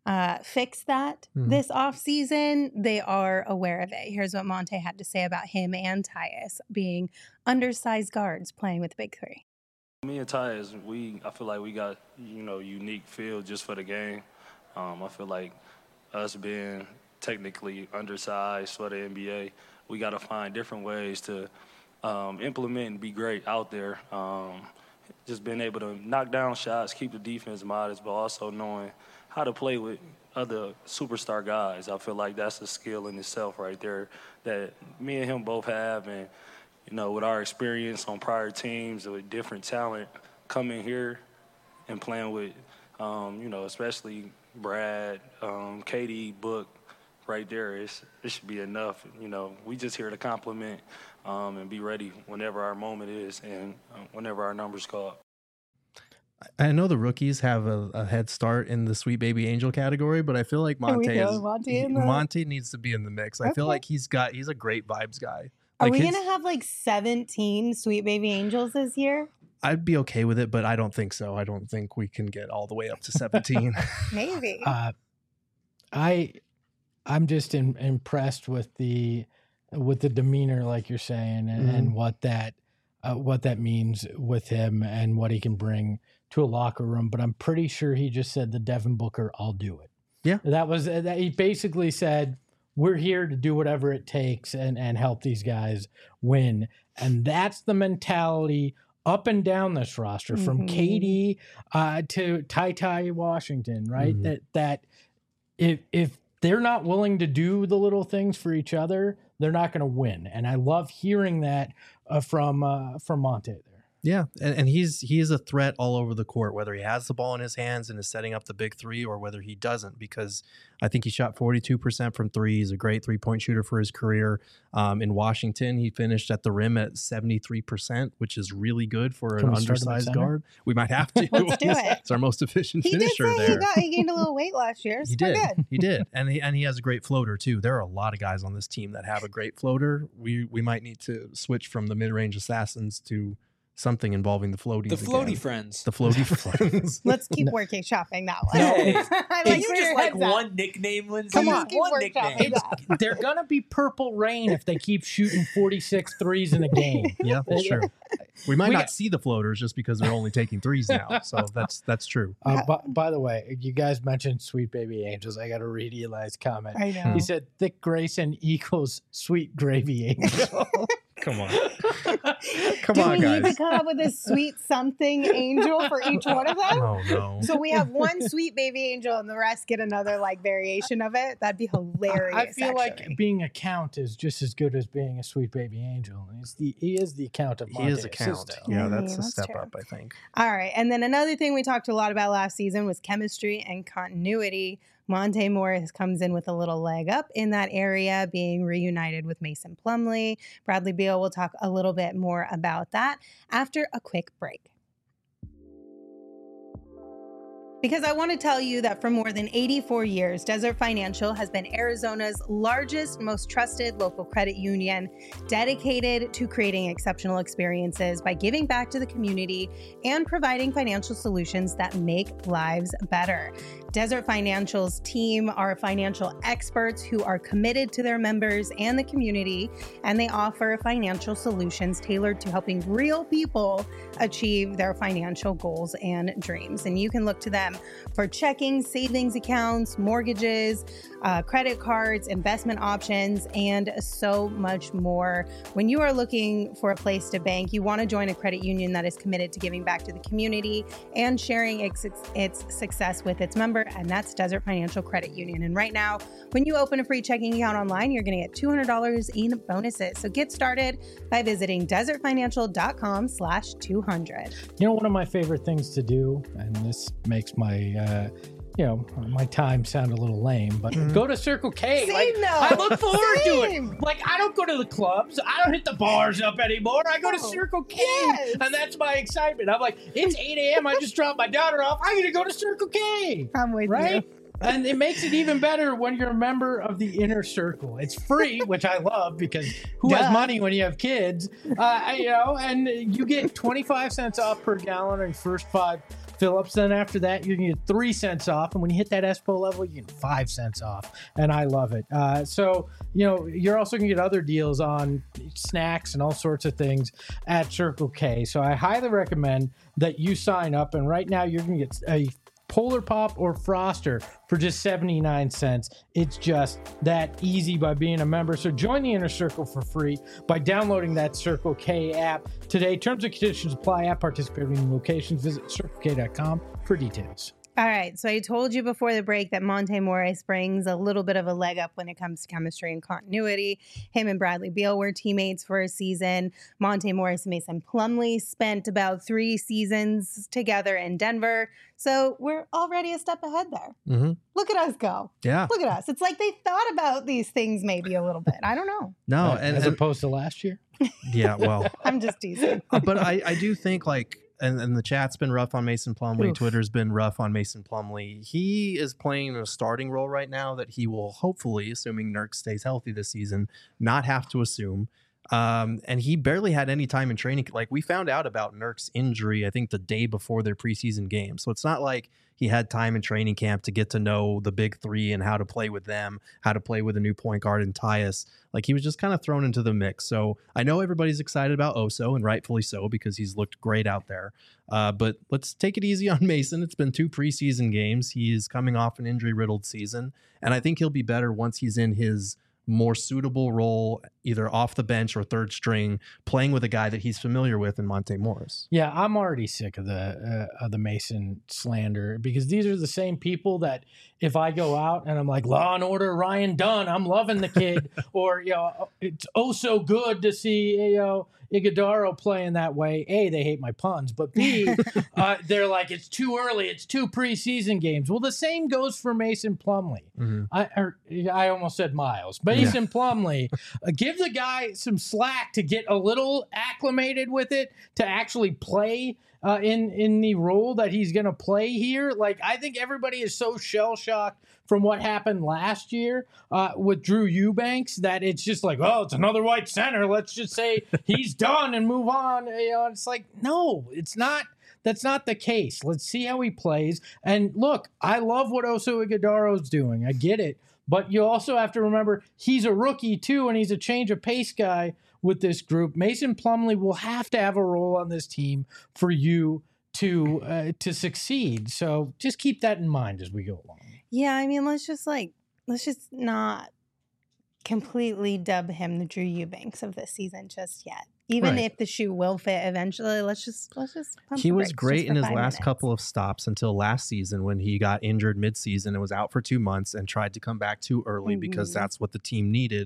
uh, fix that Mhm. this offseason, they are aware of it. Here's what Monte had to say about him and Tyus being undersized guards playing with the big three. Me and Tyus, we I feel like we got, you know, unique feel just for the game. Um, I feel like us being technically undersized for the N B A, we got to find different ways to um, implement and be great out there. Um, just being able to knock down shots, keep the defense modest, but also knowing how to play with other superstar guys. I feel like that's a skill in itself right there that me and him both have. And, you know, with our experience on prior teams with different talent, coming here and playing with, um, you know, especially Brad, um, K D, Book, right there, it's, it should be enough. You know, we just here to compliment um, and be ready whenever our moment is and uh, whenever our number's called. I know the rookies have a, a head start in the Sweet Baby Angel category, but I feel like Monte we is, Monte in the- Monte needs to be in the mix. I feel Okay. like he's got he's a great vibes guy. Are Like we his- going to have like seventeen Sweet Baby Angels this year? I'd be okay with it, but I don't think so. I don't think we can get all the way up to seventeen. Maybe. Uh, I, I'm just in, impressed with the, with the demeanor, like you're saying, and, Mhm. and what that, uh, what that means with him and what he can bring to a locker room. But I'm pretty sure he just said the Devin Booker, I'll do it. Yeah. That was that. He basically said, we're here to do whatever it takes and, and help these guys win. And that's the mentality up and down this roster, from Mhm. K D uh, to Ty Ty Washington, right? Mhm. That that if if they're not willing to do the little things for each other, they're not going to win. And I love hearing that uh, from uh, from Monte there. Yeah, and, and he's he is a threat all over the court, whether he has the ball in his hands and is setting up the big three, or whether he doesn't. Because I think he shot forty-two percent from three. He's a great three point shooter for his career. Um, in Washington, he finished at the rim at seventy-three percent, which is really good for Can an we start him at undersized center? guard. We might have to. Let's do it. It's our most efficient He did finisher say there. he, got, he gained a little weight last year. So He we're did. good. He did, and he and he has a great floater too. There are a lot of guys on this team that have a great floater. We we might need to switch from the mid range assassins to something involving the floaties. The floaty again. friends. The floaty friends. Let's keep working shopping that one. Hey, I can you where just your like head's at. one nickname, Lindsay? Come on. Keep one workshopping nickname. that. They're going to be purple rain if they keep shooting forty-six threes in a game. Yeah, that's true. We might We not got- see the floaters just because they're only taking threes now. So that's that's true. Uh, by, by the way, you guys mentioned Sweet Baby Angels. I got to read Eli's comment. I know. He said, Thick Grayson equals Sweet Gravy Angel. Come on. Come Do on, we need to guys. come up with a sweet something angel for each one of them? Oh no. So we have one sweet baby angel and the rest get another like variation of it. That'd be hilarious. I feel actually. like being a count is just as good as being a Sweet Baby Angel. He's the, he is the count of He Monte is a count. Sisto. Yeah, I that's mean, a that's step true. up, I think. All right. And then another thing we talked a lot about last season was chemistry and continuity. Monte Morris comes in with a little leg up in that area, being reunited with Mason Plumlee. Bradley Beal will talk a little bit more about that after a quick break. Because I want to tell you that for more than eighty-four years, Desert Financial has been Arizona's largest, most trusted local credit union, dedicated to creating exceptional experiences by giving back to the community and providing financial solutions that make lives better. Desert Financial's team are financial experts who are committed to their members and the community, and they offer financial solutions tailored to helping real people achieve their financial goals and dreams. And you can look to them for checking, savings accounts, mortgages, uh, credit cards, investment options, and so much more. When you are looking for a place to bank, you want to join a credit union that is committed to giving back to the community and sharing its, its success with its member, and that's Desert Financial Credit Union. And right now, when you open a free checking account online, you're going to get two hundred dollars in bonuses. So get started by visiting desertfinancial.com slash 200. You know, one of my favorite things to do, and this makes my, uh, you know, my time sound a little lame, but Mhm. go to Circle K. Same like, though. I look forward Same. to it. Like, I don't go to the clubs. I don't hit the bars up anymore. I go to No. Circle K, Yes. and that's my excitement. I'm like, it's eight a.m. I just dropped my daughter off. I'm going to go to Circle K. I'm with Right? you. And it makes it even better when you're a member of the inner circle. It's free, which I love because who Duh. has money when you have kids? Uh, you know, and you get twenty-five cents off per gallon on your first five Phillips. Then after that, you can get three cents off. And when you hit that Espo level, you get five cents off. And I love it. Uh, so, you know, you're also going to get other deals on snacks and all sorts of things at Circle K. So I highly recommend that you sign up. And right now, you're going to get a Polar Pop or Froster for just seventy-nine cents. It's just that easy by being a member. So join the Inner Circle for free by downloading that Circle K app today. Terms and conditions apply at participating locations. Visit circle k dot com for details. All right, so I told you before the break that Monte Morris brings a little bit of a leg up when it comes to chemistry and continuity. Him and Bradley Beal were teammates for a season. Monte Morris and Mason Plumlee spent about three seasons together in Denver. So we're already a step ahead there. Mm-hmm. Look at us go. Yeah. Look at us. It's like they thought about these things maybe a little bit. I don't know. No, Uh, and as and- opposed to last year. yeah, well, I'm just teasing. Uh, but I, I do think like, and, and the chat's been rough on Mason Plumlee. Oof. Twitter's been rough on Mason Plumlee. He is playing a starting role right now that he will hopefully, assuming Nurk stays healthy this season, not have to assume. Um, and he barely had any time in training. Like we found out about Nurk's injury, I think the day before their preseason game. So it's not like he had time in training camp to get to know the big three and how to play with them, how to play with a new point guard in Tyus. Like he was just kind of thrown into the mix. So I know everybody's excited about Oso, and rightfully so, because he's looked great out there. Uh, but let's take it easy on Mason. It's been two preseason games. He is coming off an injury-riddled season, and I think he'll be better once he's in his more suitable role, either off the bench or third string, playing with a guy that he's familiar with in Monte Morris. Yeah, I'm already sick of the uh, of the Mason slander, because these are the same people that if I go out and I'm like, Law and Order Ryan Dunn, I'm loving the kid, or you know, it's oh so good to see you know Iguodaro playing that way. A, they hate my puns, but B, uh, they're like, it's too early, it's two preseason games. Well, the same goes for Mason Plumlee. Mm-hmm. I or, I almost said Miles. Mason yeah. Plumlee, uh, give the guy some slack to get a little acclimated with it, to actually play uh, in in the role that he's going to play here. Like, I think everybody is so shell shocked from what happened last year uh, with Drew Eubanks that it's just like, oh, it's another white center. Let's just say he's done and move on. You know, it's like, no, it's not. That's not the case. Let's see how he plays. And look, I love what Oso Iguodaro's doing. I get it. But you also have to remember he's a rookie too, and he's a change of pace guy with this group. Mason Plumlee will have to have a role on this team for you to uh, to succeed. So just keep that in mind as we go along. Yeah, I mean, let's just like, let's just not completely dub him the Drew Eubanks of this season just yet. Even right. if the shoe will fit eventually, let's just let's just. Pump he the was great in his last minutes. couple of stops until last season when he got injured midseason and was out for two months and tried to come back too early mm-hmm. because that's what the team needed.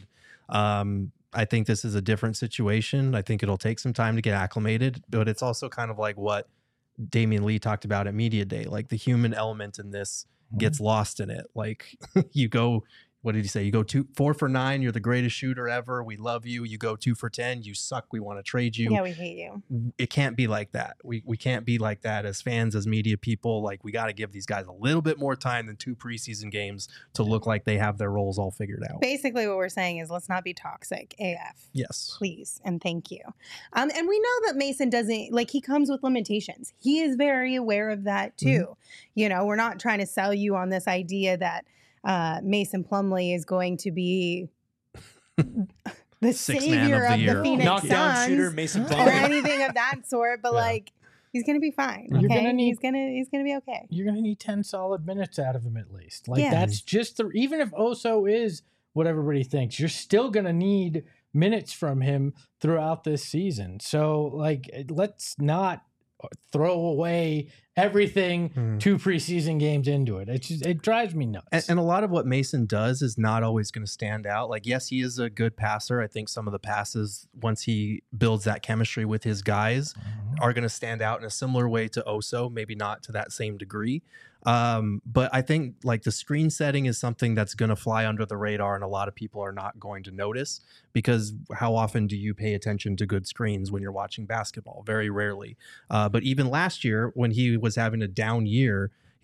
Um, I think this is a different situation. I think it'll take some time to get acclimated, but it's also kind of like what Damian Lee talked about at Media Day. Like the human element in this mm-hmm. gets lost in it. Like you go. What did he say? You go two, four for nine. You're the greatest shooter ever. We love you. You go two for ten. You suck. We want to trade you. Yeah, we hate you. It can't be like that. We we can't be like that as fans, as media people. Like we got to give these guys a little bit more time than two preseason games to look like they have their roles all figured out. Basically, what we're saying is let's not be toxic. A F. Yes, please and thank you. Um, and we know that Mason doesn't like. He comes with limitations. He is very aware of that too. Mm-hmm. You know, we're not trying to sell you on this idea that. Uh, Mason Plumlee is going to be the Six savior of the, of year. the Phoenix Knockdown Suns shooter, Mason or Plumlee. anything of that sort. But yeah. like, he's gonna be fine. You're Okay, gonna need, he's gonna he's gonna be okay. You're gonna need ten solid minutes out of him at least. Like yeah. that's just the. Even if Oso is what everybody thinks, you're still gonna need minutes from him throughout this season. So like, let's not throw away everything mm. two preseason games into it. It just, it drives me nuts. And, and a lot of what Mason does is not always going to stand out. Like, yes, he is a good passer. I think some of the passes, once he builds that chemistry with his guys, mm-hmm. are going to stand out in a similar way to Oso, maybe not to that same degree. Um, but I think like the screen setting is something that's going to fly under the radar, and a lot of people are not going to notice, because how often do you pay attention to good screens when you're watching basketball? Very rarely. Uh, but even last year when he was having a down year, he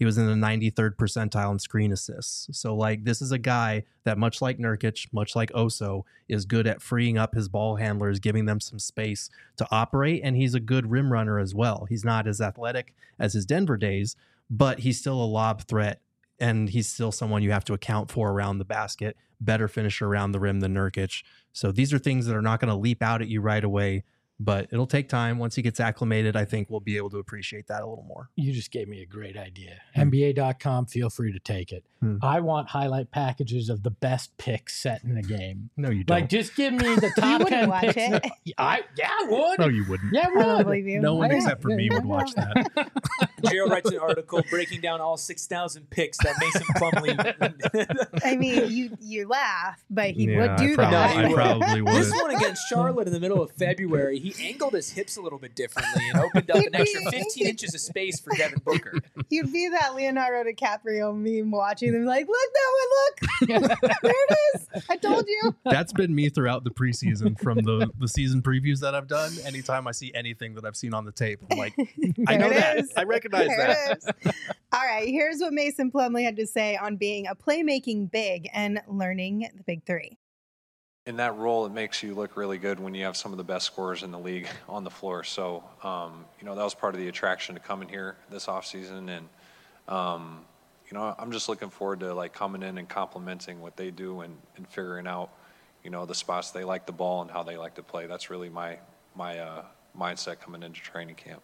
He was in the ninety-third percentile in screen assists. So like this is a guy that, much like Nurkic, much like Oso, is good at freeing up his ball handlers, giving them some space to operate. And he's a good rim runner as well. He's not as athletic as his Denver days, but he's still a lob threat. And he's still someone you have to account for around the basket, better finisher around the rim than Nurkic. So these are things that are not going to leap out at you right away, but it'll take time. Once he gets acclimated, I think we'll be able to appreciate that a little more. You just gave me a great idea. Hmm. N B A dot com, feel free to take it. Hmm. I want highlight packages of the best picks set in a game. No, you don't. Like, just give me the top wouldn't ten watch picks. it. I, yeah, I would. No, you wouldn't. Yeah, I I don't would. believe you. No one I- except for me would watch that. Jared writes an article breaking down all six thousand picks that Mason Plumlee. I mean, you you laugh, but he Yeah, would do I probably, that. No, he I would. probably would. This one against Charlotte in the middle of February, he angled his hips a little bit differently and opened up an extra fifteen inches of space for Devin Booker. You'd be that Leonardo DiCaprio meme watching them like, look, that one, look. There it is. I told you. That's been me throughout the preseason from the, the season previews that I've done. Anytime I see anything that I've seen on the tape, I'm like, I There know it that. is. I recognize There that. it is. All right, here's what Mason Plumlee had to say on being a playmaking big and learning the big three. In that role, it makes you look really good when you have some of the best scorers in the league on the floor. So, um, you know, that was part of the attraction to coming here this offseason. And, um, you know, I'm just looking forward to, like, coming in and complimenting what they do and, and figuring out, you know, the spots they like the ball and how they like to play. That's really my, my uh, mindset coming into training camp.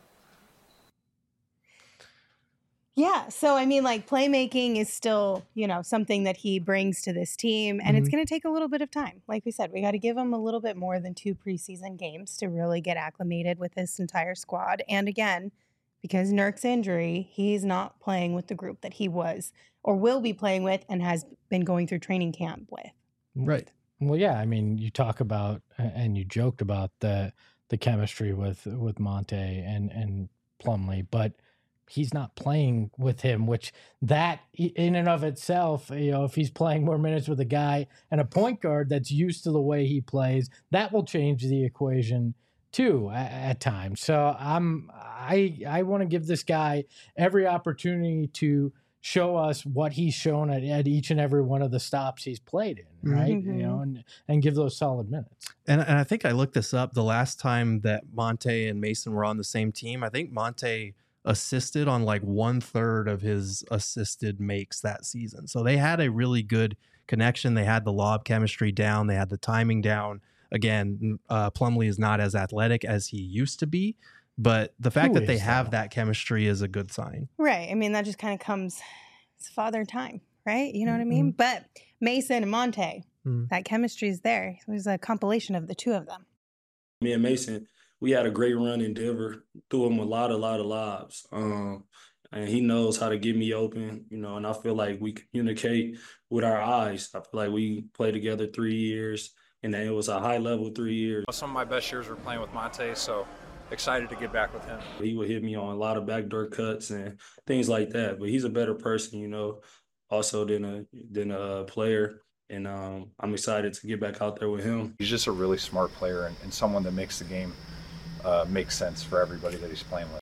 Yeah, so I mean, like, playmaking is still, you know, something that he brings to this team, and it's Mhm. going to take a little bit of time. Like we said, we got to give him a little bit more than two preseason games to really get acclimated with this entire squad. And again, because Nurk's injury, he's not playing with the group that he was or will be playing with and has been going through training camp with. Right. Well, yeah. I mean, you talk about and you joked about the the chemistry with with Monte and and Plumlee, but he's not playing with him, which that in and of itself, you know, if he's playing more minutes with a guy and a point guard that's used to the way he plays, that will change the equation too at, at times. So I'm I I want to give this guy every opportunity to show us what he's shown at, at each and every one of the stops he's played in, right? Mhm. You know, and and give those solid minutes. And, and I think I looked this up the last time that Monte and Mason were on the same team. I think Monte assisted on like one third of his assisted makes that season. So they had a really good connection. They had the lob chemistry down. They had the timing down. Again, uh, Plumlee is not as athletic as he used to be, but the fact Who that they is, have though? that chemistry is a good sign. Right. I mean, that just kind of comes, it's father time, right? You know what I mean? But Mason and Monte, Mhm. that chemistry is there. It was a compilation of the two of them. Me and Mason, we had a great run in Denver. Threw him a lot, a lot of lobs. Um, and he knows how to get me open, you know, and I feel like we communicate with our eyes. I feel like we played together three years, and then it was a high-level three years. Some of my best years were playing with Monte, so excited to get back with him. He would hit me on a lot of backdoor cuts and things like that. But he's a better person, you know, also than a than a player. And um, I'm excited to get back out there with him. He's just a really smart player and, and someone that makes the game uh, make sense for everybody that he's playing with.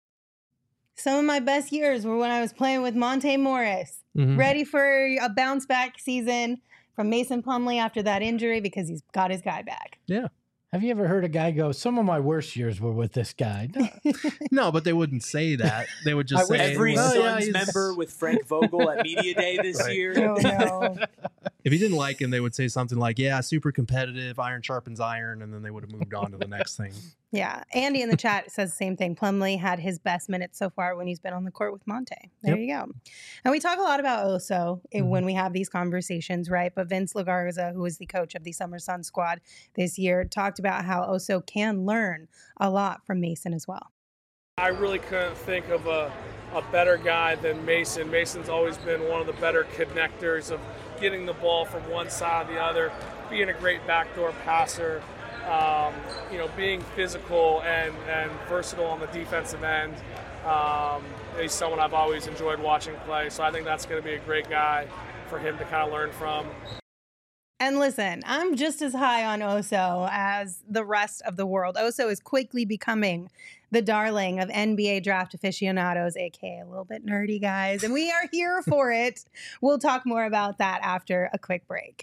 Some of my best years were when I was playing with Monte Morris, Mhm. ready for a bounce back season from Mason Plumlee after that injury because he's got his guy back. Yeah. Have you ever heard a guy go, some of my worst years were with this guy? No. No, but they wouldn't say that. They would just I wish say Every "Oh, yeah, Suns he's-" member with Frank Vogel at Media Day this Right. year. Oh, no. If he didn't like him, they would say something like, yeah, super competitive, iron sharpens iron, and then they would have moved on to the next thing. Yeah. Andy in the chat says the same thing. Plumlee had his best minutes so far when he's been on the court with Monte. There Yep. you go. And we talk a lot about Oso Mhm. when we have these conversations, right? But Vince Lagarza, who is the coach of the Summer Sun squad this year, talked about how Oso can learn a lot from Mason as well. I really couldn't think of a, a better guy than Mason. Mason's always been one of the better connectors of getting the ball from one side to the other, being a great backdoor passer, um, you know, being physical and, and versatile on the defensive end. Um, he's someone I've always enjoyed watching play, so I think that's going to be a great guy for him to kind of learn from. And listen, I'm just as high on Oso as the rest of the world. Oso is quickly becoming the darling of N B A draft aficionados, aka a little bit nerdy guys, and we are here for it. We'll talk more about that after a quick break.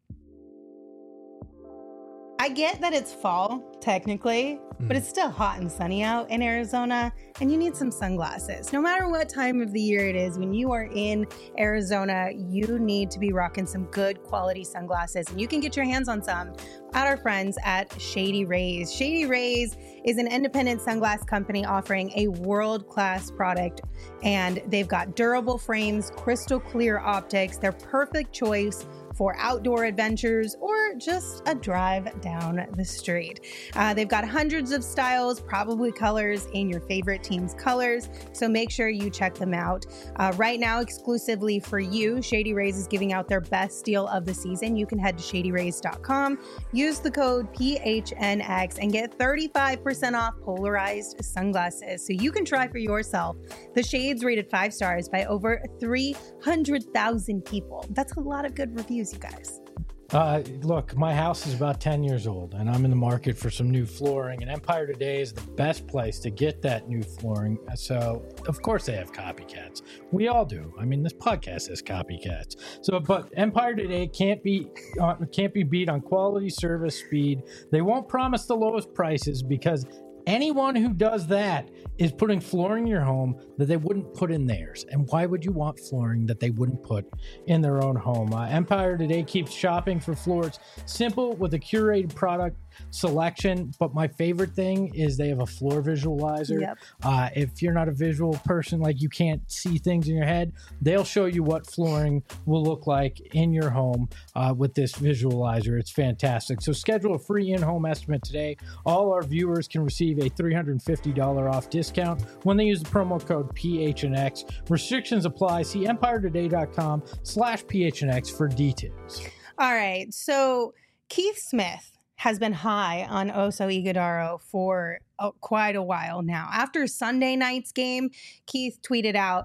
I get that it's fall, technically, but it's still hot and sunny out in Arizona, and you need some sunglasses. No matter what time of the year it is, when you are in Arizona, you need to be rocking some good quality sunglasses, and you can get your hands on some at our friends at Shady Rays. Shady Rays is an independent sunglass company offering a world-class product, and they've got durable frames, crystal clear optics. They're perfect choice for outdoor adventures or just a drive down the street. Uh, they've got hundreds of styles, probably colors in your favorite team's colors, so make sure you check them out. Uh, right now, exclusively for you, Shady Rays is giving out their best deal of the season. You can head to shady rays dot com, use the code P H N X, and get thirty-five percent off polarized sunglasses so you can try for yourself. The shades rated five stars by over three hundred thousand people. That's a lot of good reviews, you guys. Uh, look, my house is about ten years old, and I'm in the market for some new flooring, and Empire Today is the best place to get that new flooring. So, of course, they have copycats. We all do. I mean, this podcast has copycats. So, but Empire Today can't be uh, can't be beat on quality, service, speed. They won't promise the lowest prices because anyone who does that is putting flooring in your home that they wouldn't put in theirs. And why would you want flooring that they wouldn't put in their own home? Uh, Empire Today keeps shopping for floors simple with a curated product selection. But my favorite thing is they have a floor visualizer. Yep. Uh, if you're not a visual person, like you can't see things in your head, they'll show you what flooring will look like in your home uh, with this visualizer. It's fantastic. So schedule a free in-home estimate today. All our viewers can receive a three hundred fifty dollars off discount when they use the promo code P H N X. Restrictions apply. See empire today dot com slash P H N X for details. All right. So Keith Smith has been high on Oso Ighodaro for uh, quite a while now. After Sunday night's game, Keith tweeted out,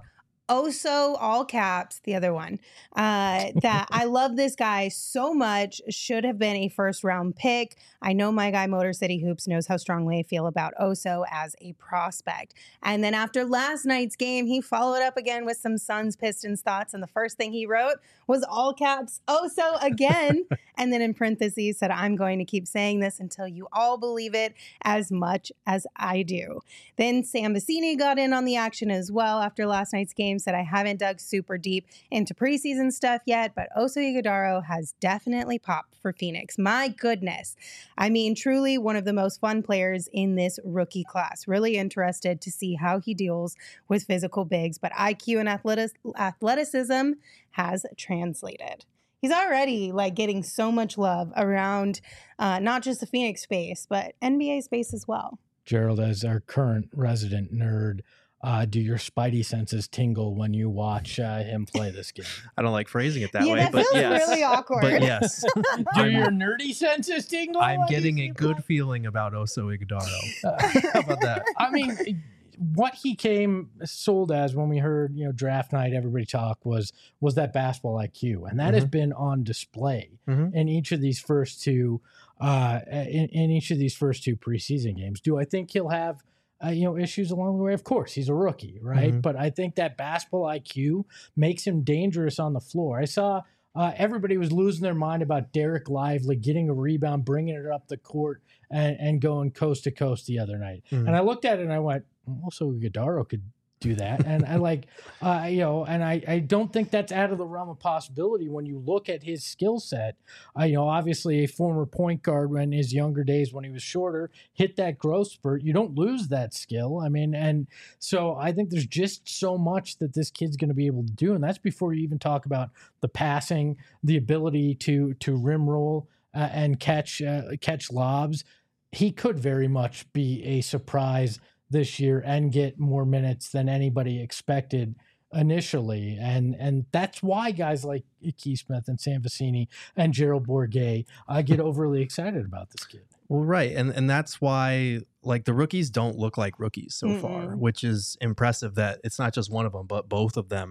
Oso, all caps, the other one, uh, that I love this guy so much, should have been a first round pick. I know my guy Motor City Hoops knows how strongly I feel about Oso as a prospect. And then after last night's game, he followed up again with some Suns Pistons thoughts. And the first thing he wrote was all caps, Oso again. And then in parentheses said, I'm going to keep saying this until you all believe it as much as I do. Then Sam Vecini got in on the action as well after last night's game. Said I haven't dug super deep into preseason stuff yet, but Oso Ighodaro has definitely popped for Phoenix. My goodness. I mean, truly one of the most fun players in this rookie class. Really interested to see how he deals with physical bigs, but I Q and athletic- athleticism has translated. He's already like getting so much love around uh, not just the Phoenix space, but N B A space as well. Gerald, as our current resident nerd, Uh, do your spidey senses tingle when you watch uh, him play this game? I don't like phrasing it that yeah, way, that but feels yes. really awkward. But yes. Do I'm, your nerdy senses tingle? I'm when getting you a see good play? feeling about Oso Ighodaro. Uh, How about that? I mean, what he came sold as when we heard, you know, draft night, everybody talk was was that basketball I Q, and that Mm-hmm. has been on display Mhm. in each of these first two, uh, in, in each of these first two preseason games. Do I think he'll have Uh, you know, issues along the way? Of course, he's a rookie, right? Mhm. But I think that basketball I Q makes him dangerous on the floor. I saw uh, everybody was losing their mind about Derek Lively getting a rebound, bringing it up the court, and, and going coast to coast the other night. Mhm. And I looked at it and I went, also Ighodaro could do that. And I like, uh, you know, and I, I don't think that's out of the realm of possibility when you look at his skill set. Uh, you know, obviously a former point guard in his younger days when he was shorter, hit that growth spurt. You don't lose that skill. I mean, and so I think there's just so much that this kid's going to be able to do. And that's before you even talk about the passing, the ability to, to rim roll uh, and catch, uh, catch lobs. He could very much be a surprise this year and get more minutes than anybody expected initially. And and that's why guys like Keith Smith and Sam Vecini and Gerald Bourguet uh, get overly excited about this kid. Well, right. And and that's why like the rookies don't look like rookies so Mm-mm. far, which is impressive that it's not just one of them, but both of them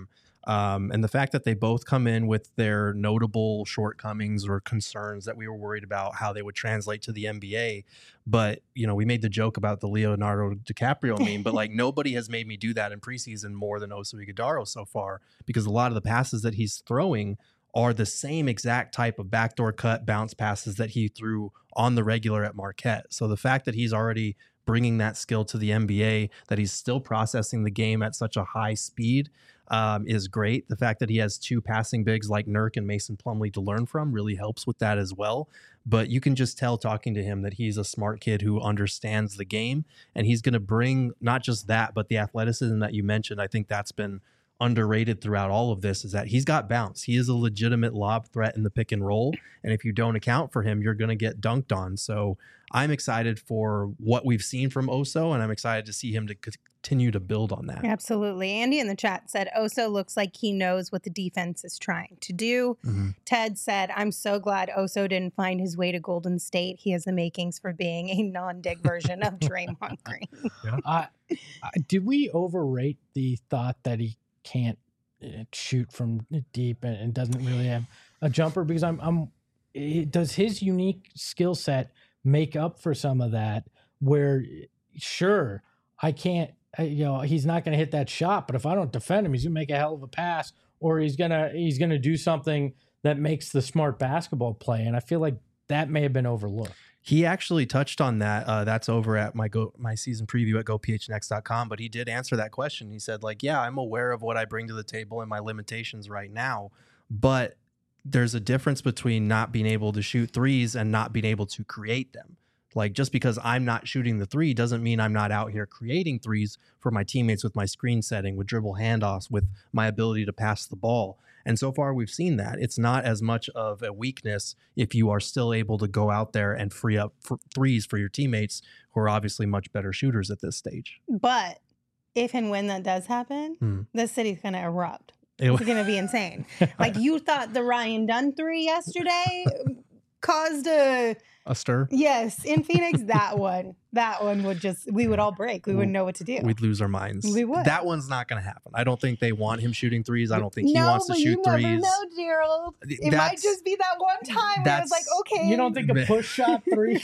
Um, and the fact that they both come in with their notable shortcomings or concerns that we were worried about how they would translate to the N B A. But, you know, we made the joke about the Leonardo DiCaprio meme, but like nobody has made me do that in preseason more than Oso Ighodaro so far, because a lot of the passes that he's throwing are the same exact type of backdoor cut bounce passes that he threw on the regular at Marquette. So the fact that he's already bringing that skill to the N B A, that he's still processing the game at such a high speed, um, is great. The fact that he has two passing bigs like Nurk and Mason Plumlee to learn from really helps with that as well. But you can just tell talking to him that he's a smart kid who understands the game, and he's going to bring not just that, but the athleticism that you mentioned. I think that's been underrated throughout all of this, is that he's got bounce. He is a legitimate lob threat in the pick and roll. And if you don't account for him, you're going to get dunked on. So I'm excited for what we've seen from Oso, and I'm excited to see him to continue to build on that. Absolutely. Andy in the chat said, Oso looks like he knows what the defense is trying to do. Mm-hmm. Ted said, I'm so glad Oso didn't find his way to Golden State. He has the makings for being a non-dig version of Draymond Green. Yeah. Uh, uh, did we overrate the thought that he can't uh, shoot from deep and, and doesn't really have a jumper? Because I'm, I'm, it, does his unique skill set make up for some of that? Where, sure, I can't, I, you know, he's not going to hit that shot, but if I don't defend him, he's going to make a hell of a pass, or he's gonna he's gonna do something that makes the smart basketball play. And I feel like that may have been overlooked. He actually touched on that. Uh, that's over at my go my season preview at go p h n x dot com. But he did answer that question. He said, like, yeah, I'm aware of what I bring to the table and my limitations right now, but there's a difference between not being able to shoot threes and not being able to create them. Like, just because I'm not shooting the three doesn't mean I'm not out here creating threes for my teammates with my screen setting, with dribble handoffs, with my ability to pass the ball. And so far we've seen that. It's not as much of a weakness if you are still able to go out there and free up f- threes for your teammates, who are obviously much better shooters at this stage. But if and when that does happen, Hmm. the city's going to erupt. It- It's going to be insane. Like, you thought the Ryan Dunn three yesterday caused a... A stir? Yes, in Phoenix, that one. That one would just, we would all break. We wouldn't know what to do. We'd lose our minds. We would. That one's not going to happen. I don't think they want him shooting threes. I don't think he no, wants to but shoot you never threes. know, Gerald. It might That's- just be that one time where it was like, okay. You don't think a push shot three?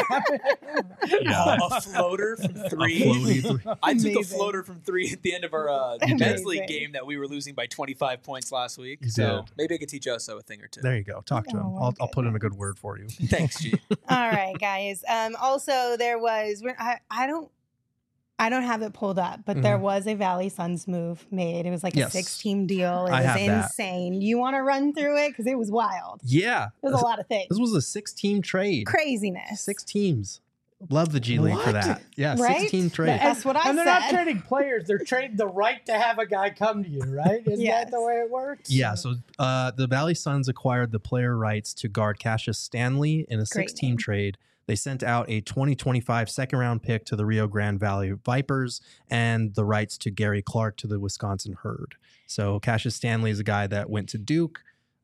Yeah. a floater from three. floaty three. I took a Amazing. floater from three at the end of our uh, You did. men's league Amazing. game that we were losing by twenty-five points last week. You so did. maybe I could teach Oso a thing or two. There you go. Talk to him. Oh, my I'll, I'll put in a good word for you. Thanks, G. All right, guys. Um, also, there was, we're- I, I don't, I don't have it pulled up, but there Mhm. was a Valley Suns move made. It was like Yes. a six-team deal. It I was have that. insane. You want to run through it? Because it was wild. Yeah. It was a lot of things. This was a six-team trade. Craziness. Six teams. Love the G League for What? that. Yeah, Right? six-team trade. That's what I And they're said. not trading players; they're trading the right to have a guy come to you. Right? Isn't Yes. that the way it works? Yeah, so uh, the Valley Suns acquired the player rights to guard Cassius Stanley in a Great six-team name. trade. They sent out a twenty twenty-five second-round pick to the Rio Grande Valley Vipers and the rights to Gary Clark to the Wisconsin Herd. So Cassius Stanley is a guy that went to Duke.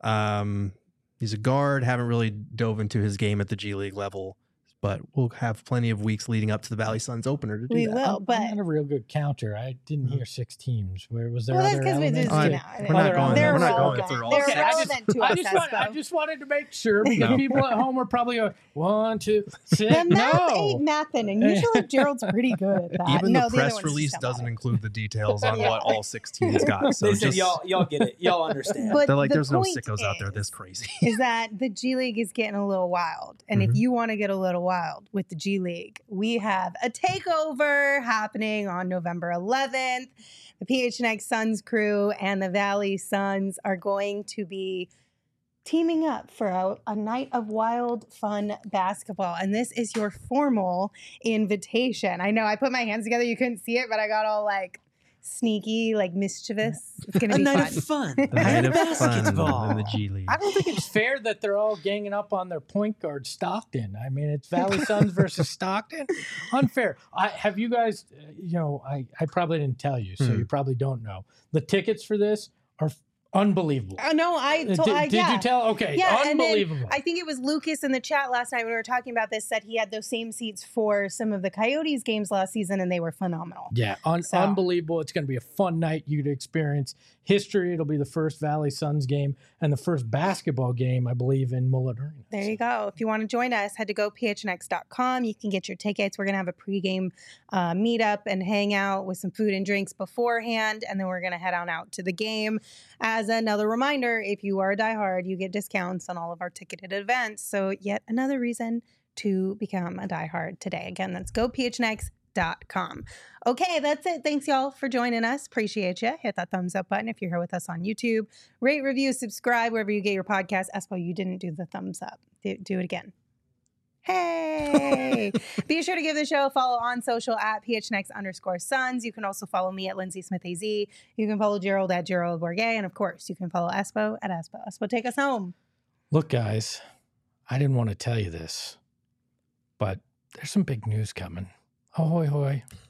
Um, he's a guard. Haven't really dove into his game at the G League level, but we'll have plenty of weeks leading up to the Valley Suns opener to do We that. will, I'm, but I'm not a real good counter. I didn't hear six teams. Where was there? well, that's other because we elements? just, I- you know, we're not Other going. they're We're not relevant. going through all They're six. Okay, I just- relevant to I us, just, want, I Espo. just wanted to make sure because No. people at home are probably going, one, two, six. The math ain't No. mathing, and usually Gerald's pretty good at that. Even no, the other press ones release just don't doesn't bother. include the details on Yeah. what all six teams got. So they said just, y'all y'all get it. Y'all understand. But they're like, the there's no point sickos out there is- this crazy. is that the G League is getting a little wild. And Mhm. if you want to get a little wild with the G League, we have a takeover happening on November eleventh. The P H N X Suns crew and the Valley Suns are going to be teaming up for a, a night of wild, fun basketball. And this is your formal invitation. I know I put my hands together. You couldn't see it, but I got all like sneaky, like mischievous. It's going to be fun. fun. The night of fun in the G League. I don't think it's fair that they're all ganging up on their point guard Stockton. I mean, it's Valley Suns versus Stockton. Unfair. I have you guys. uh, You know, I I probably didn't tell you, so Hmm. you probably don't know. The tickets for this are Unbelievable. Uh, no, I Uh, told. did- I, did yeah. you tell? Okay, yeah, and then unbelievable. I think it was Lucas in the chat last night when we were talking about this said he had those same seats for some of the Coyotes games last season, and they were phenomenal. Yeah, un- So- unbelievable. It's going to be a fun night. You to experience history. It'll be the first Valley Suns game and the first basketball game, I believe, in Mullet Arena. There you go. If you want to join us, head to go p h n x dot com. You can get your tickets. We're going to have a pregame uh, meetup and hang out with some food and drinks beforehand, and then we're going to head on out to the game. As another reminder, if you are a diehard, you get discounts on all of our ticketed events. So yet another reason to become a diehard today. Again, that's go p h n x dot com. Okay, that's it. Thanks, y'all, for joining us. Appreciate you. Hit that thumbs up button if you're here with us on YouTube. Rate, review, subscribe wherever you get your podcast. Espo, you didn't do the thumbs up. Do, do it again. Hey! Be sure to give the show a follow on social at phnx underscore sons. You can also follow me at Lindsay Smith A Z. You can follow Gerald at Gerald Bourget. And of course, you can follow Espo at Espo. Espo, take us home. Look, guys, I didn't want to tell you this, but there's some big news coming. Ahoy, hoy.